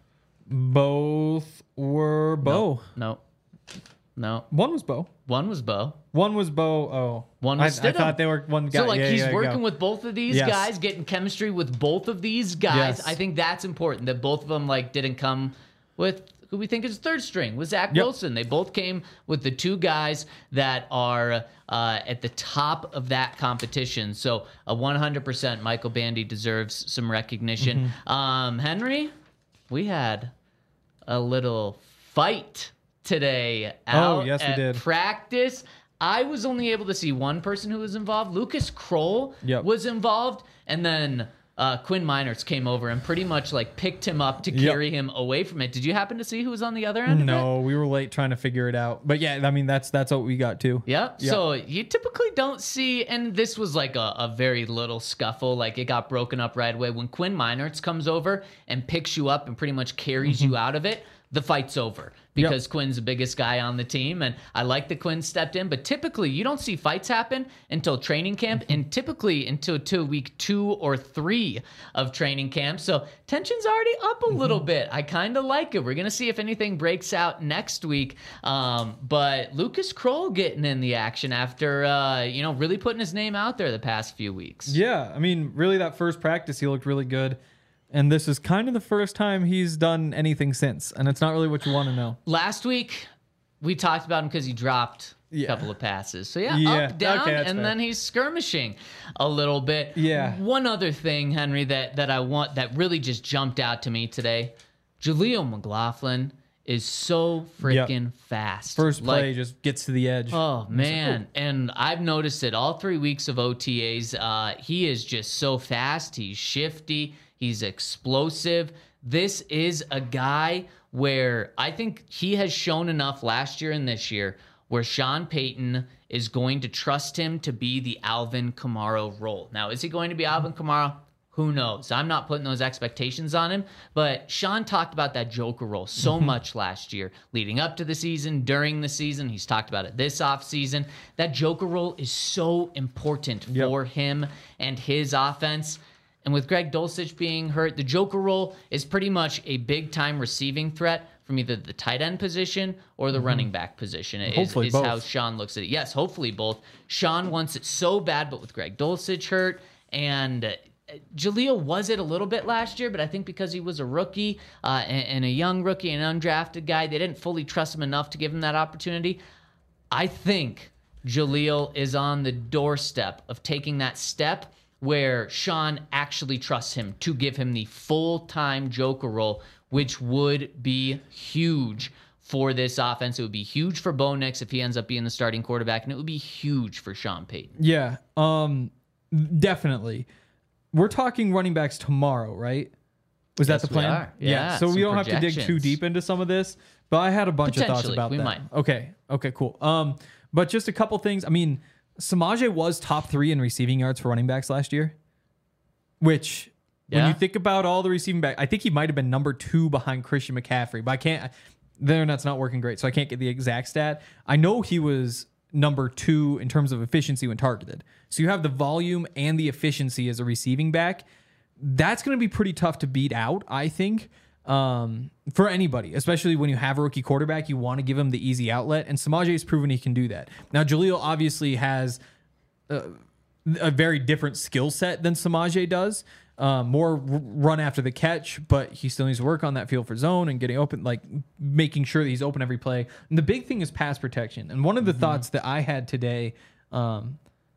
Both were Bo. No. One was Bo. One was Bo. One was Bo. Oh. One was I thought they were one guy. So, like, yeah, he's yeah, working with both of these guys, getting chemistry with both of these guys. Yes. I think that's important, that both of them, like, didn't come with who we think is third string, with Zach Wilson. They both came with the 2 guys that are at the top of that competition. So, 100% Michael Bandy deserves some recognition. Henry, we had a little fight today out yes, we at did. practice. I was only able to see one person who was involved. Lucas Kroll was involved, and then Quinn Meinerz came over and pretty much like picked him up to carry him away from it. Did you happen to see who was on the other end of it? No, we were late trying to figure it out. But yeah, I mean, that's what we got too. Yeah. So you typically don't see, and this was like a very little scuffle. Like it got broken up right away. When Quinn Meinerz comes over and picks you up and pretty much carries you out of it, the fight's over because Quinn's the biggest guy on the team. And I like that Quinn stepped in, but typically you don't see fights happen until training camp and typically until week 2 or 3 of training camp. So tension's already up a little bit. I kind of like it. We're going to see if anything breaks out next week. But Lucas Kroll getting in the action after, really putting his name out there the past few weeks. Yeah. I mean, really that first practice, he looked really good. And this is kind of the first time he's done anything since. And it's not really what you want to know. Last week, we talked about him because he dropped a couple of passes. So, up, down, and then he's skirmishing a little bit. Yeah. One other thing, Henry, that I want, that really just jumped out to me today. Jaleel McLaughlin is so freaking fast. First play just gets to the edge. Oh, man. And I've noticed it all 3 weeks of OTAs. He is just so fast. He's shifty. He's explosive. This is a guy where I think he has shown enough last year and this year where Sean Payton is going to trust him to be the Alvin Kamara role. Now, is he going to be Alvin Kamara? Who knows? I'm not putting those expectations on him, but Sean talked about that Joker role so much last year, leading up to the season, during the season. He's talked about it this offseason. That Joker role is so important for him and his offense. And with Greg Dulcich being hurt, the Joker role is pretty much a big-time receiving threat from either the tight end position or the running back position. Hopefully both. How Sean looks at it. Yes, hopefully both. Sean wants it so bad, but with Greg Dulcich hurt, and Jaleel was it a little bit last year, but I think because he was a rookie and a young rookie, an undrafted guy, they didn't fully trust him enough to give him that opportunity. I think Jaleel is on the doorstep of taking that step where Sean actually trusts him to give him the full-time Joker role, which would be huge for this offense. It would be huge for Bo Nix if he ends up being the starting quarterback, and it would be huge for Sean Payton. Yeah, definitely. We're talking running backs tomorrow, right? Was that the plan? We are. Yeah, so we don't have to dig projections. too deep into some of this, but I had a bunch of thoughts about we that. might. Okay, cool. But just a couple things. I mean, Samaje was top 3 in receiving yards for running backs last year, which when you think about all the receiving back, I think he might have been number 2 behind Christian McCaffrey, but the internet's not working great, so I can't get the exact stat. I know he was number 2 in terms of efficiency when targeted. So you have the volume and the efficiency as a receiving back. That's going to be pretty tough to beat out, I think, for anybody, especially when you have a rookie quarterback. You want to give him the easy outlet, and Samaje has proven he can do that. Now, Jaleel obviously has a very different skill set than Samaje does. More run after the catch, but he still needs to work on that feel for zone and getting open, like making sure that he's open every play. And the big thing is pass protection. And one of the thoughts that I had today,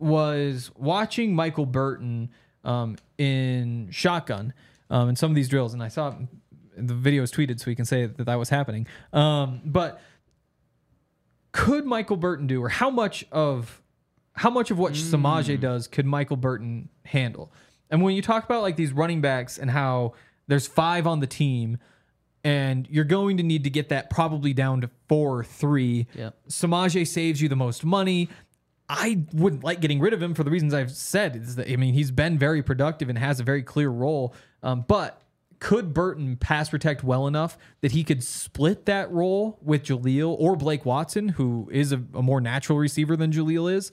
was watching Michael Burton in shotgun in some of these drills, and I saw the video was tweeted, so we can say that was happening. But could Michael Burton do, or how much of what Samaje does could Michael Burton handle? And when you talk about like these running backs and how there's 5 on the team, and you're going to need to get that probably down to 4 or 3. Yep. Samaje saves you the most money. I wouldn't like getting rid of him for the reasons I've said. Is that, I mean, he's been very productive and has a very clear role. But could Burton pass protect well enough that he could split that role with Jaleel or Blake Watson, who is a more natural receiver than Jaleel is?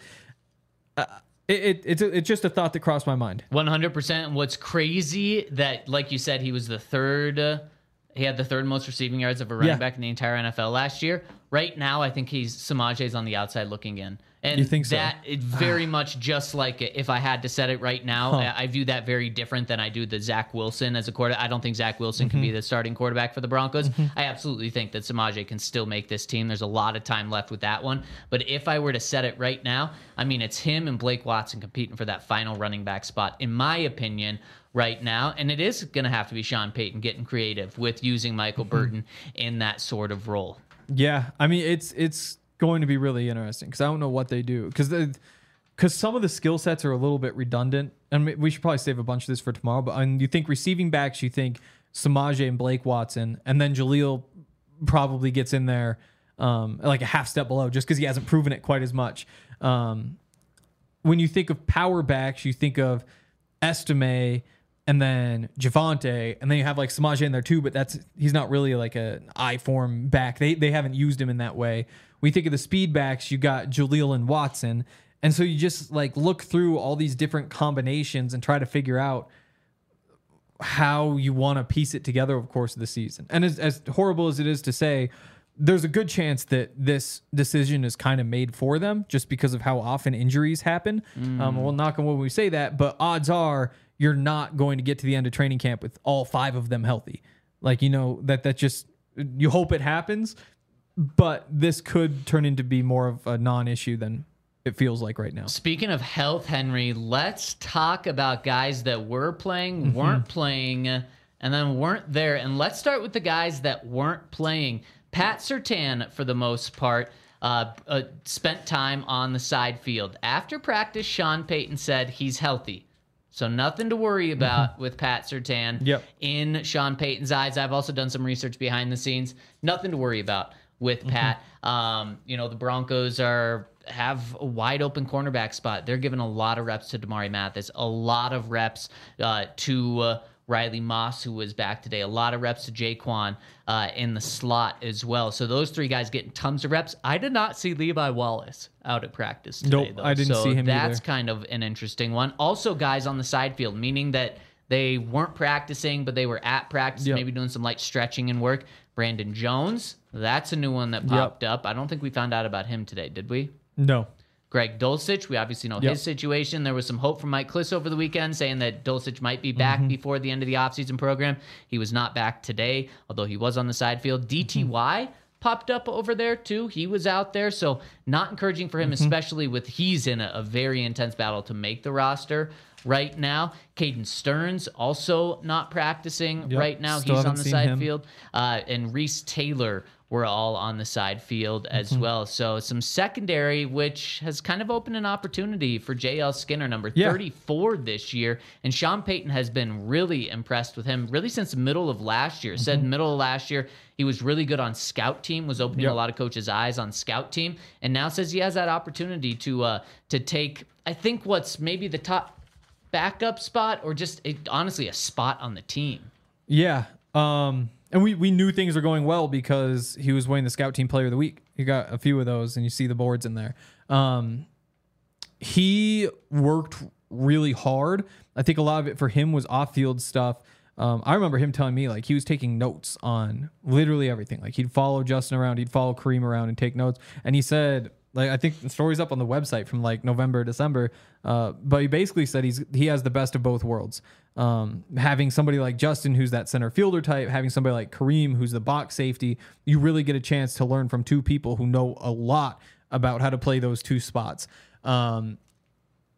It's just a thought that crossed my mind. 100%. What's crazy that, like you said, he was the third. He had the third most receiving yards of a running back in the entire NFL last year. Right now, I think Samaje's on the outside looking in. And you think so? That is very much just like if I had to set it right now, I view that very different than I do the Zach Wilson as a quarterback. I don't think Zach Wilson can be the starting quarterback for the Broncos. I absolutely think that Samaje can still make this team. There's a lot of time left with that one. But if I were to set it right now, I mean, it's him and Blake Watson competing for that final running back spot, in my opinion, right now. And it is going to have to be Sean Payton getting creative with using Michael Burton in that sort of role. Yeah, I mean, it's going to be really interesting because I don't know what they do, because some of the skill sets are a little bit redundant, and we should probably save a bunch of this for tomorrow. But you think receiving backs, you think Samaje and Blake Watson, and then Jaleel probably gets in there like a half step below just because he hasn't proven it quite as much. When you think of power backs, you think of Estime and then Javonte, and then you have like Samaje in there too, but he's not really like an I form back. They haven't used him in that way. We think of the speed backs, you got Jaleel and Watson, and so you just like look through all these different combinations and try to figure out how you want to piece it together over the course of the season. And as horrible as it is to say, there's a good chance that this decision is kind of made for them just because of how often injuries happen. We'll knock on wood when we say that, but odds are you're not going to get to the end of training camp with all 5 of them healthy. Like, you know, that just, you hope it happens, but this could turn into be more of a non-issue than it feels like right now. Speaking of health, Henry, let's talk about guys that were playing, weren't playing, and then weren't there. And let's start with the guys that weren't playing. Pat Surtain, for the most part, spent time on the side field. After practice, Sean Payton said he's healthy. So nothing to worry about with Pat Surtain in Sean Payton's eyes. I've also done some research behind the scenes. Nothing to worry about with Pat. You know, the Broncos have a wide open cornerback spot. They're giving a lot of reps to Damari Mathis, a lot of reps to Riley Moss, who was back today, a lot of reps to Jaquan in the slot as well. So those 3 guys getting tons of reps. I did not see Levi Wallace out at practice today, though. I didn't see him that's either. kind of an interesting one. Also, guys on the side field, meaning that they weren't practicing, but they were at practice, maybe doing some light stretching and work. Brandon Jones, that's a new one that popped up. I don't think we found out about him today, did we? No. Greg Dulcich, we obviously know his situation. There was some hope from Mike Kliss over the weekend saying that Dulcich might be back before the end of the offseason program. He was not back today, although he was on the side field. DTY popped up over there too. He was out there, so not encouraging for him, especially with he's in a very intense battle to make the roster right now. Caden Stearns also not practicing right now. Still He's on the side him. field. And Reese Taylor were all on the side field as well. So some secondary, which has kind of opened an opportunity for JL Skinner, number 34 this year. And Sean Payton has been really impressed with him really since the middle of last year. Said middle of last year, he was really good on scout team, was opening a lot of coaches' eyes on scout team. And now says he has that opportunity to take, I think, what's maybe the top backup spot or just honestly a spot on the team. Yeah. And we knew things were going well because he was winning the Scout Team Player of the Week. He got a few of those, and you see the boards in there. He worked really hard. I think a lot of it for him was off-field stuff. I remember him telling me like he was taking notes on literally everything. Like he'd follow Justin around, he'd follow Kareem around and take notes. And he said, like, I think the story's up on the website from like November, December. But he basically said he has the best of both worlds. Having somebody like Justin, who's that center fielder type, having somebody like Kareem, who's the box safety, you really get a chance to learn from 2 people who know a lot about how to play those 2 spots.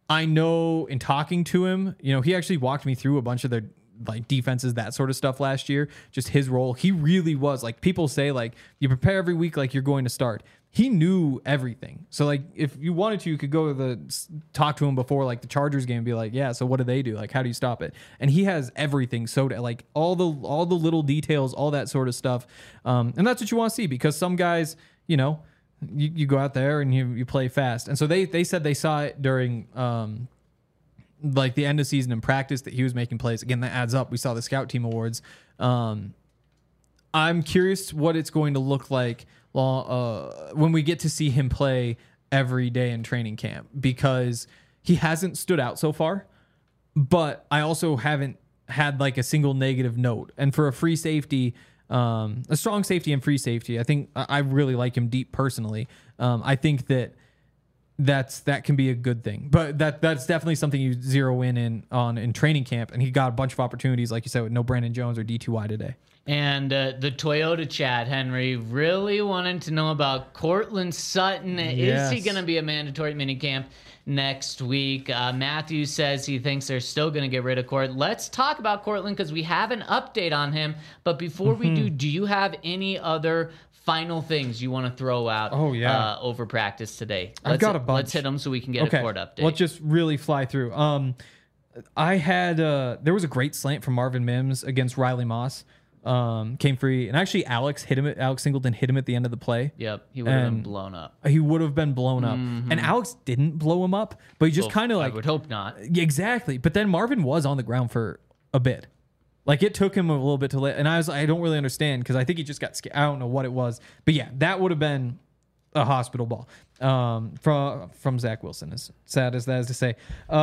I know in talking to him, he actually walked me through a bunch of their like defenses, that sort of stuff last year, just his role. He really was like, people say like you prepare every week like you're going to start. He knew everything. So like if you wanted to, you could go to talk to him before like the Chargers game and be like, yeah, so what do they do? Like, how do you stop it? And he has everything. So like all the little details, all that sort of stuff. And that's what you want to see, because some guys, you go out there and you play fast. And so they said they saw it during, like the end of season in practice, that he was making plays. Again, that adds up. We saw the scout team awards. I'm curious what it's going to look like when we get to see him play every day in training camp, because he hasn't stood out so far, but I also haven't had like a single negative note. And for a free safety, a strong safety and free safety, I think I really like him deep personally. I think that can be a good thing, but that's definitely something you zero in training camp. And he got a bunch of opportunities, like you said, with no Brandon Jones or D2Y today. And the Toyota chat, Henry, really wanted to know about Courtland Sutton. Yes. Is he going to be a mandatory minicamp next week? Matthew says he thinks they're still going to get rid of Court. Let's talk about Courtland, because we have an update on him. But before we do you have any other final things you want to throw out over practice today? I've got a bunch. Let's hit them so we can get a Court update. Let's just really fly through. I had there was a great slant from Marvin Mims against Riley Moss. Came free, and actually Alex Singleton hit him at the end of the play. Yep, he would have been blown up. He would have been blown up. And Alex didn't blow him up, but he just kind of like... I would hope not. Exactly. But then Marvin was on the ground for a bit. Like, it took him a little bit to let... And I don't really understand, because I think he just got scared. I don't know what it was. But yeah, that would have been a hospital ball from Zach Wilson, as sad as that is to say.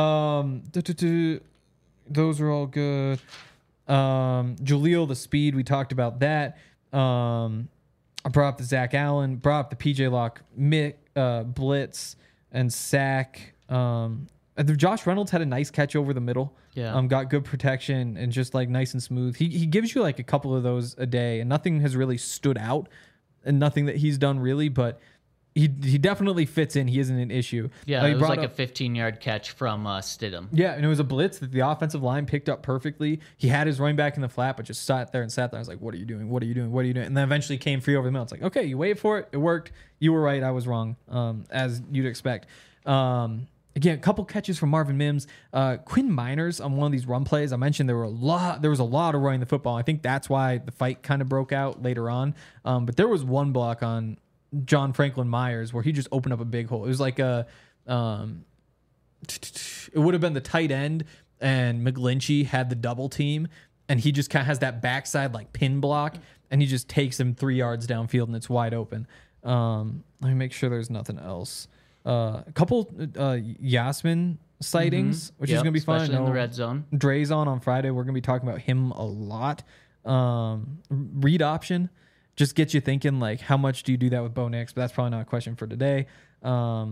Those are all good. Jaleel, the speed, we talked about that. I brought up the Zach Allen, brought up the PJ Locke blitz and sack. Josh Reynolds had a nice catch over the middle. Yeah. Got good protection and just like nice and smooth. He gives you like a couple of those a day, and nothing has really stood out, and nothing that he's done really, but he definitely fits in. He isn't an issue. Yeah, it was like a 15-yard catch from Stidham. Yeah, and it was a blitz that the offensive line picked up perfectly. He had his running back in the flat, but just sat there. I was like, what are you doing? What are you doing? What are you doing? And then eventually came free over the middle. It's like, okay, you wait for it. It worked. You were right. I was wrong, as you'd expect. Again, a couple catches from Marvin Mims. Quinn Miners on one of these run plays. I mentioned there was a lot of running the football. I think that's why the fight kind of broke out later on. But there was one block on John Franklin Myers where he just opened up a big hole. It was like it would have been the tight end, and McGlinchey had the double team, and he just kind of has that backside like pin block, and he just takes him 3 yards downfield, and it's wide open. Let me make sure there's nothing else. A couple Yasmin sightings, which is going to be fun. Especially in the red zone. Dre's on Friday. We're going to be talking about him a lot. Read option. Just get you thinking, like, how much do you do that with Bo Nix? But that's probably not a question for today. All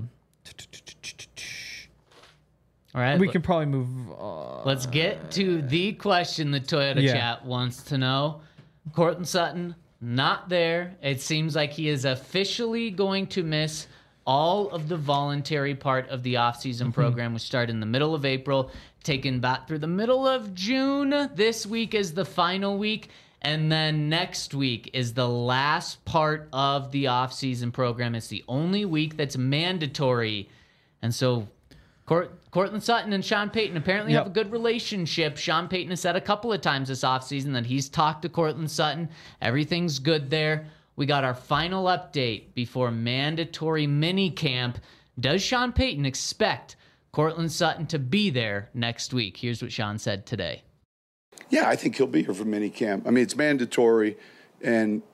right. We can probably move Let's get to the question the Toyota chat wants to know. Courtland Sutton, not there. It seems like he is officially going to miss all of the voluntary part of the offseason program, which started in the middle of April, taken back through the middle of June. This week is the final week. And then next week is the last part of the offseason program. It's the only week that's mandatory. And so Courtland Sutton and Sean Payton apparently have a good relationship. Sean Payton has said a couple of times this offseason that he's talked to Courtland Sutton. Everything's good there. We got our final update before mandatory mini camp. Does Sean Payton expect Courtland Sutton to be there next week? Here's what Sean said today. Yeah, I think he'll be here for minicamp. I mean, it's mandatory. And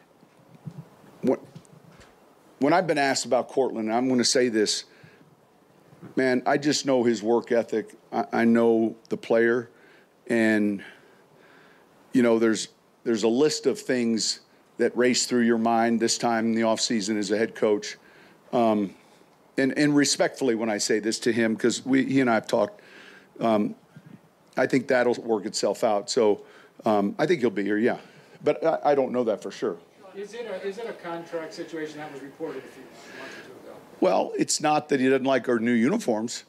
when I've been asked about Courtland, I'm going to say this, man, I just know his work ethic. I know the player. And, you know, there's a list of things that race through your mind this time in the offseason as a head coach. And respectfully when I say this to him, because he and I have talked, I think that'll work itself out. So I think he'll be here, yeah. But I don't know that for sure. Is it a contract situation that was reported a few months or two ago? Well, it's not that he doesn't like our new uniforms.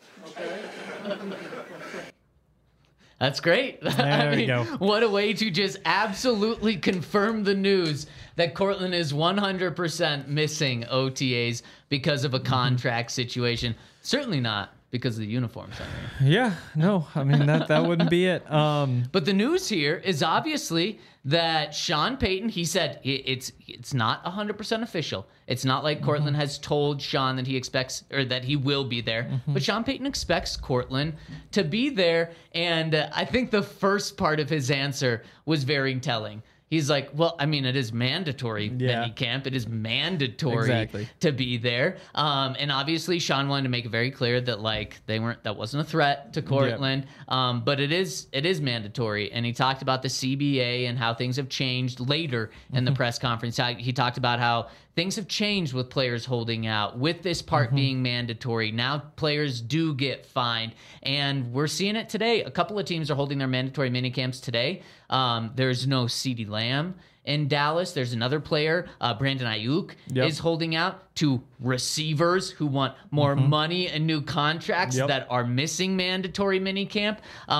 That's great. There we go. What a way to just absolutely confirm the news that Cortland is 100% missing OTAs because of a contract situation. Certainly not because of the uniforms. I mean. Yeah, no, I mean that wouldn't be it. But the news here is obviously that Sean Payton, he said it's not 100% official. It's not like Cortland has told Sean that he expects or that he will be there. But Sean Payton expects Cortland to be there. And I think the first part of his answer was very telling. He's like, well, I mean, it is mandatory mini camp. It is mandatory to be there. And obviously, Sean wanted to make it very clear that that wasn't a threat to Cortland. But it is mandatory. And he talked about the CBA and how things have changed later in the press conference. He talked about how things have changed with players holding out, with this part being mandatory. Now players do get fined, and we're seeing it today. A couple of teams are holding their mandatory minicamps today. There's no CeeDee Lamb in Dallas. There's another player, Brandon Ayuk, is holding out to receivers who want more money and new contracts that are missing mandatory minicamp.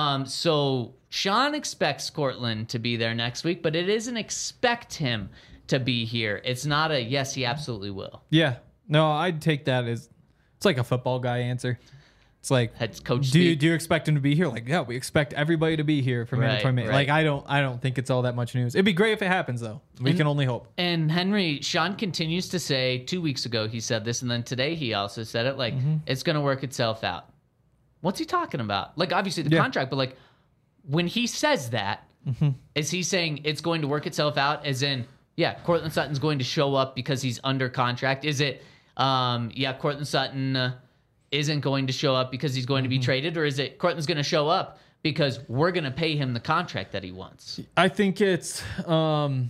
So Sean expects Cortland to be there next week, but it isn't expect him to be here. It's not a yes, he absolutely will. Yeah. No, I'd take that as it's like a football guy answer. It's like Head coach. do you expect him to be here? Like, yeah, we expect everybody to be here for mandatory. Right. Like, I don't think it's all that much news. It'd be great if it happens though. We can only hope. And Henry, Sean continues to say 2 weeks ago he said this, and then today he also said it, like it's gonna work itself out. What's he talking about? Like obviously the contract, but like when he says that, is he saying it's going to work itself out as in Cortland Sutton's going to show up because he's under contract? Is it, Cortland Sutton isn't going to show up because he's going to be traded? Or is it Cortland's going to show up because we're going to pay him the contract that he wants? I think it's going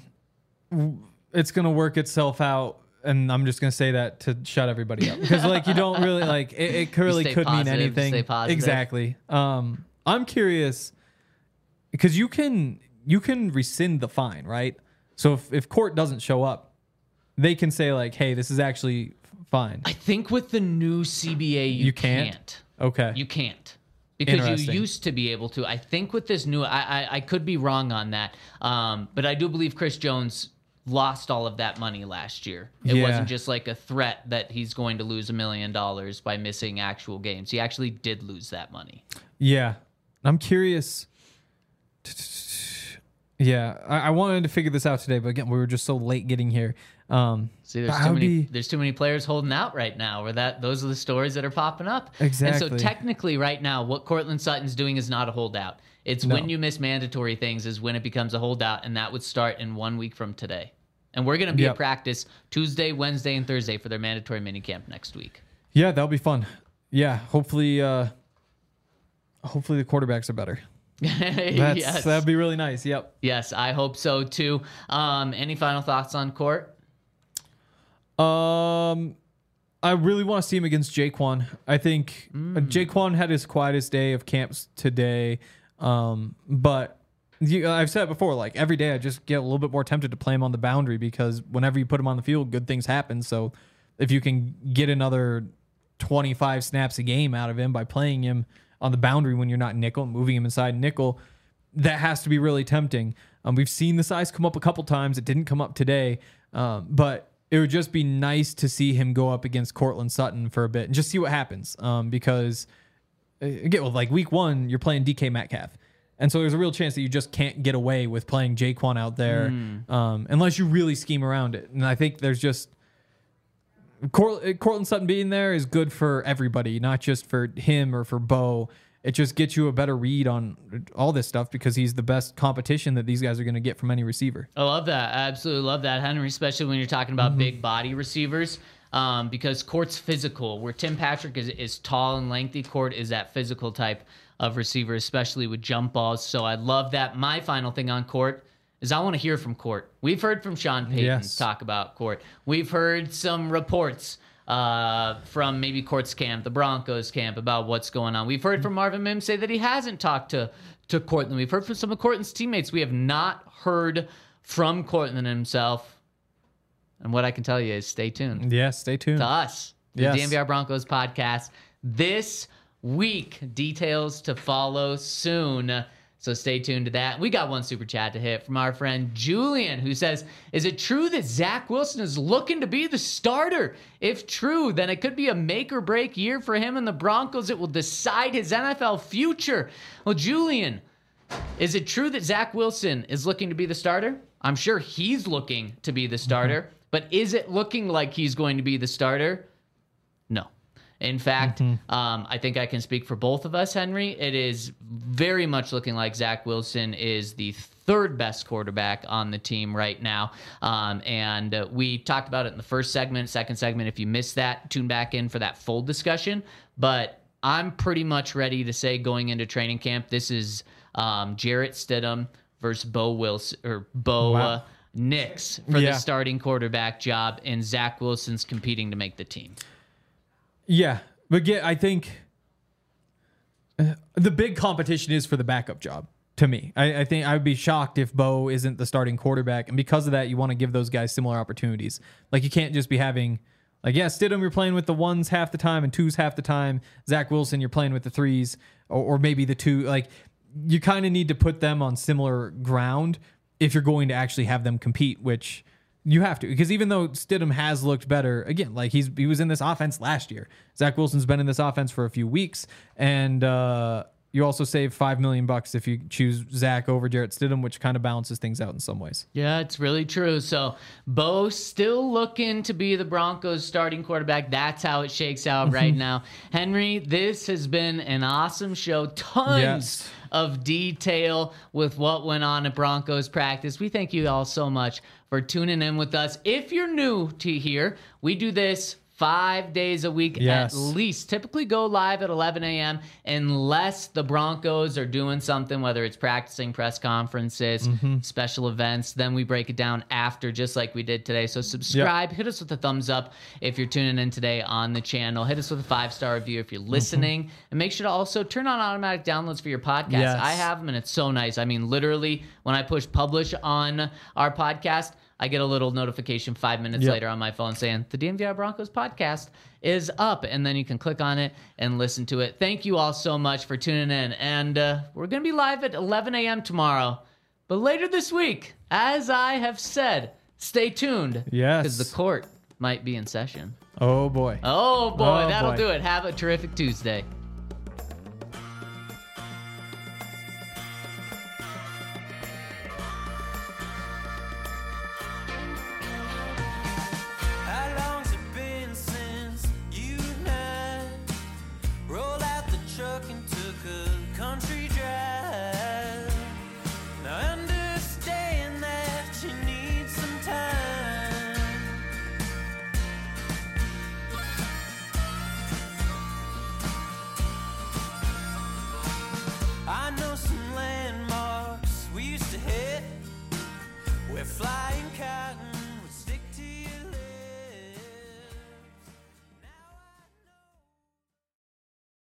to work itself out. And I'm just going to say that to shut everybody up. Because, like, you don't really, like, it really could mean anything. Stay positive. Exactly. I'm curious because you can rescind the fine, right? So if court doesn't show up, they can say like, "Hey, this is actually fine." I think with the new CBA, you can't. Okay, you can't because you used to be able to. I think with this new, I could be wrong on that, but I do believe Chris Jones lost all of that money last year. It wasn't just like a threat that he's going to lose $1 million by missing actual games. He actually did lose that money. Yeah, I'm curious. Yeah, I wanted to figure this out today, but again, we were just so late getting here. See, there's too many players holding out right now. Those are the stories that are popping up. Exactly. And so technically, right now, what Cortland Sutton's doing is not a holdout. It's when you miss mandatory things is when it becomes a holdout, and that would start in 1 week from today. And we're going to be at practice Tuesday, Wednesday, and Thursday for their mandatory minicamp next week. Yeah, that'll be fun. Yeah, hopefully the quarterbacks are better. Yes. That'd be really nice. Yep. Yes, I hope so too. Any final thoughts on Court? I really want to see him against Jaquan. I think Jaquan had his quietest day of camps today. But I've said it before, like every day I just get a little bit more tempted to play him on the boundary because whenever you put him on the field, good things happen. So if you can get another 25 snaps a game out of him by playing him on the boundary when you're not nickel, moving him inside nickel, that has to be really tempting. We've seen the size come up a couple times. It didn't come up today, but it would just be nice to see him go up against Cortland Sutton for a bit and just see what happens. Because again, with like week 1, you're playing DK Metcalf. And so there's a real chance that you just can't get away with playing Jaquan out there unless you really scheme around it. And I think there's just Cortland Sutton being there is good for everybody, not just for him or for Bo. It just gets you a better read on all this stuff because he's the best competition that these guys are going to get from any receiver. I love that. I absolutely love that, Henry, especially when you're talking about big body receivers because Court's physical. Where Tim Patrick is tall and lengthy, Court is that physical type of receiver, especially with jump balls. So I love that. My final thing on Court is I want to hear from Court. We've heard from Sean Payton talk about Court. We've heard some reports from maybe Court's camp, the Broncos camp, about what's going on. We've heard from Marvin Mims say that he hasn't talked to Cortland. We've heard from some of Cortland's teammates. We have not heard from Cortland himself. And what I can tell you is stay tuned. Yeah, stay tuned. To us. The Yes. DNVR Broncos podcast this week. Details to follow soon. So stay tuned to that. We got one super chat to hit from our friend Julian, who says, is it true that Zach Wilson is looking to be the starter? If true, then it could be a make or break year for him and the Broncos. It will decide his NFL future. Well, Julian, is it true that Zach Wilson is looking to be the starter? I'm sure he's looking to be the starter, but is it looking like he's going to be the starter? No. In fact, I think I can speak for both of us, Henry. It is very much looking like Zach Wilson is the third best quarterback on the team right now. And we talked about it in the first segment, second segment. If you missed that, tune back in for that full discussion. But I'm pretty much ready to say going into training camp, this is Jarrett Stidham versus Bo Wilson or Bo Nix for the starting quarterback job, and Zach Wilson's competing to make the team. Yeah, but I think the big competition is for the backup job. To me, I think I would be shocked if Bo isn't the starting quarterback, and because of that, you want to give those guys similar opportunities. Like, you can't just be having, like, Stidham, you're playing with the ones half the time and twos half the time. Zach Wilson, you're playing with the threes or maybe the two. Like, you kind of need to put them on similar ground if you're going to actually have them compete, which you have to, because even though Stidham has looked better, again, like he was in this offense last year. Zach Wilson's been in this offense for a few weeks, and you also save $5 million if you choose Zach over Jarrett Stidham, which kind of balances things out in some ways. Yeah, it's really true. So Bo still looking to be the Broncos starting quarterback. That's how it shakes out right now. Henry, this has been an awesome show. Tons of detail with what went on at Broncos practice. We thank you all so much for tuning in with us. If you're new to here, we do this 5 days a week at least. Typically go live at 11 a.m. unless the Broncos are doing something, whether it's practicing, press conferences, special events. Then we break it down after, just like we did today. So subscribe. Hit us with a thumbs up if you're tuning in today on the channel. Hit us with a 5-star review if you're listening. And make sure to also turn on automatic downloads for your podcast. I have them, and it's so nice. I mean, literally, when I push publish on our podcast, I get a little notification 5 minutes later on my phone saying the DNVR Broncos podcast is up, and then you can click on it and listen to it. Thank you all so much for tuning in, and we're going to be live at 11 a.m. tomorrow. But later this week, as I have said, stay tuned. Yes. Because the court might be in session. Oh, boy. Oh, boy. That'll do it. Have a terrific Tuesday.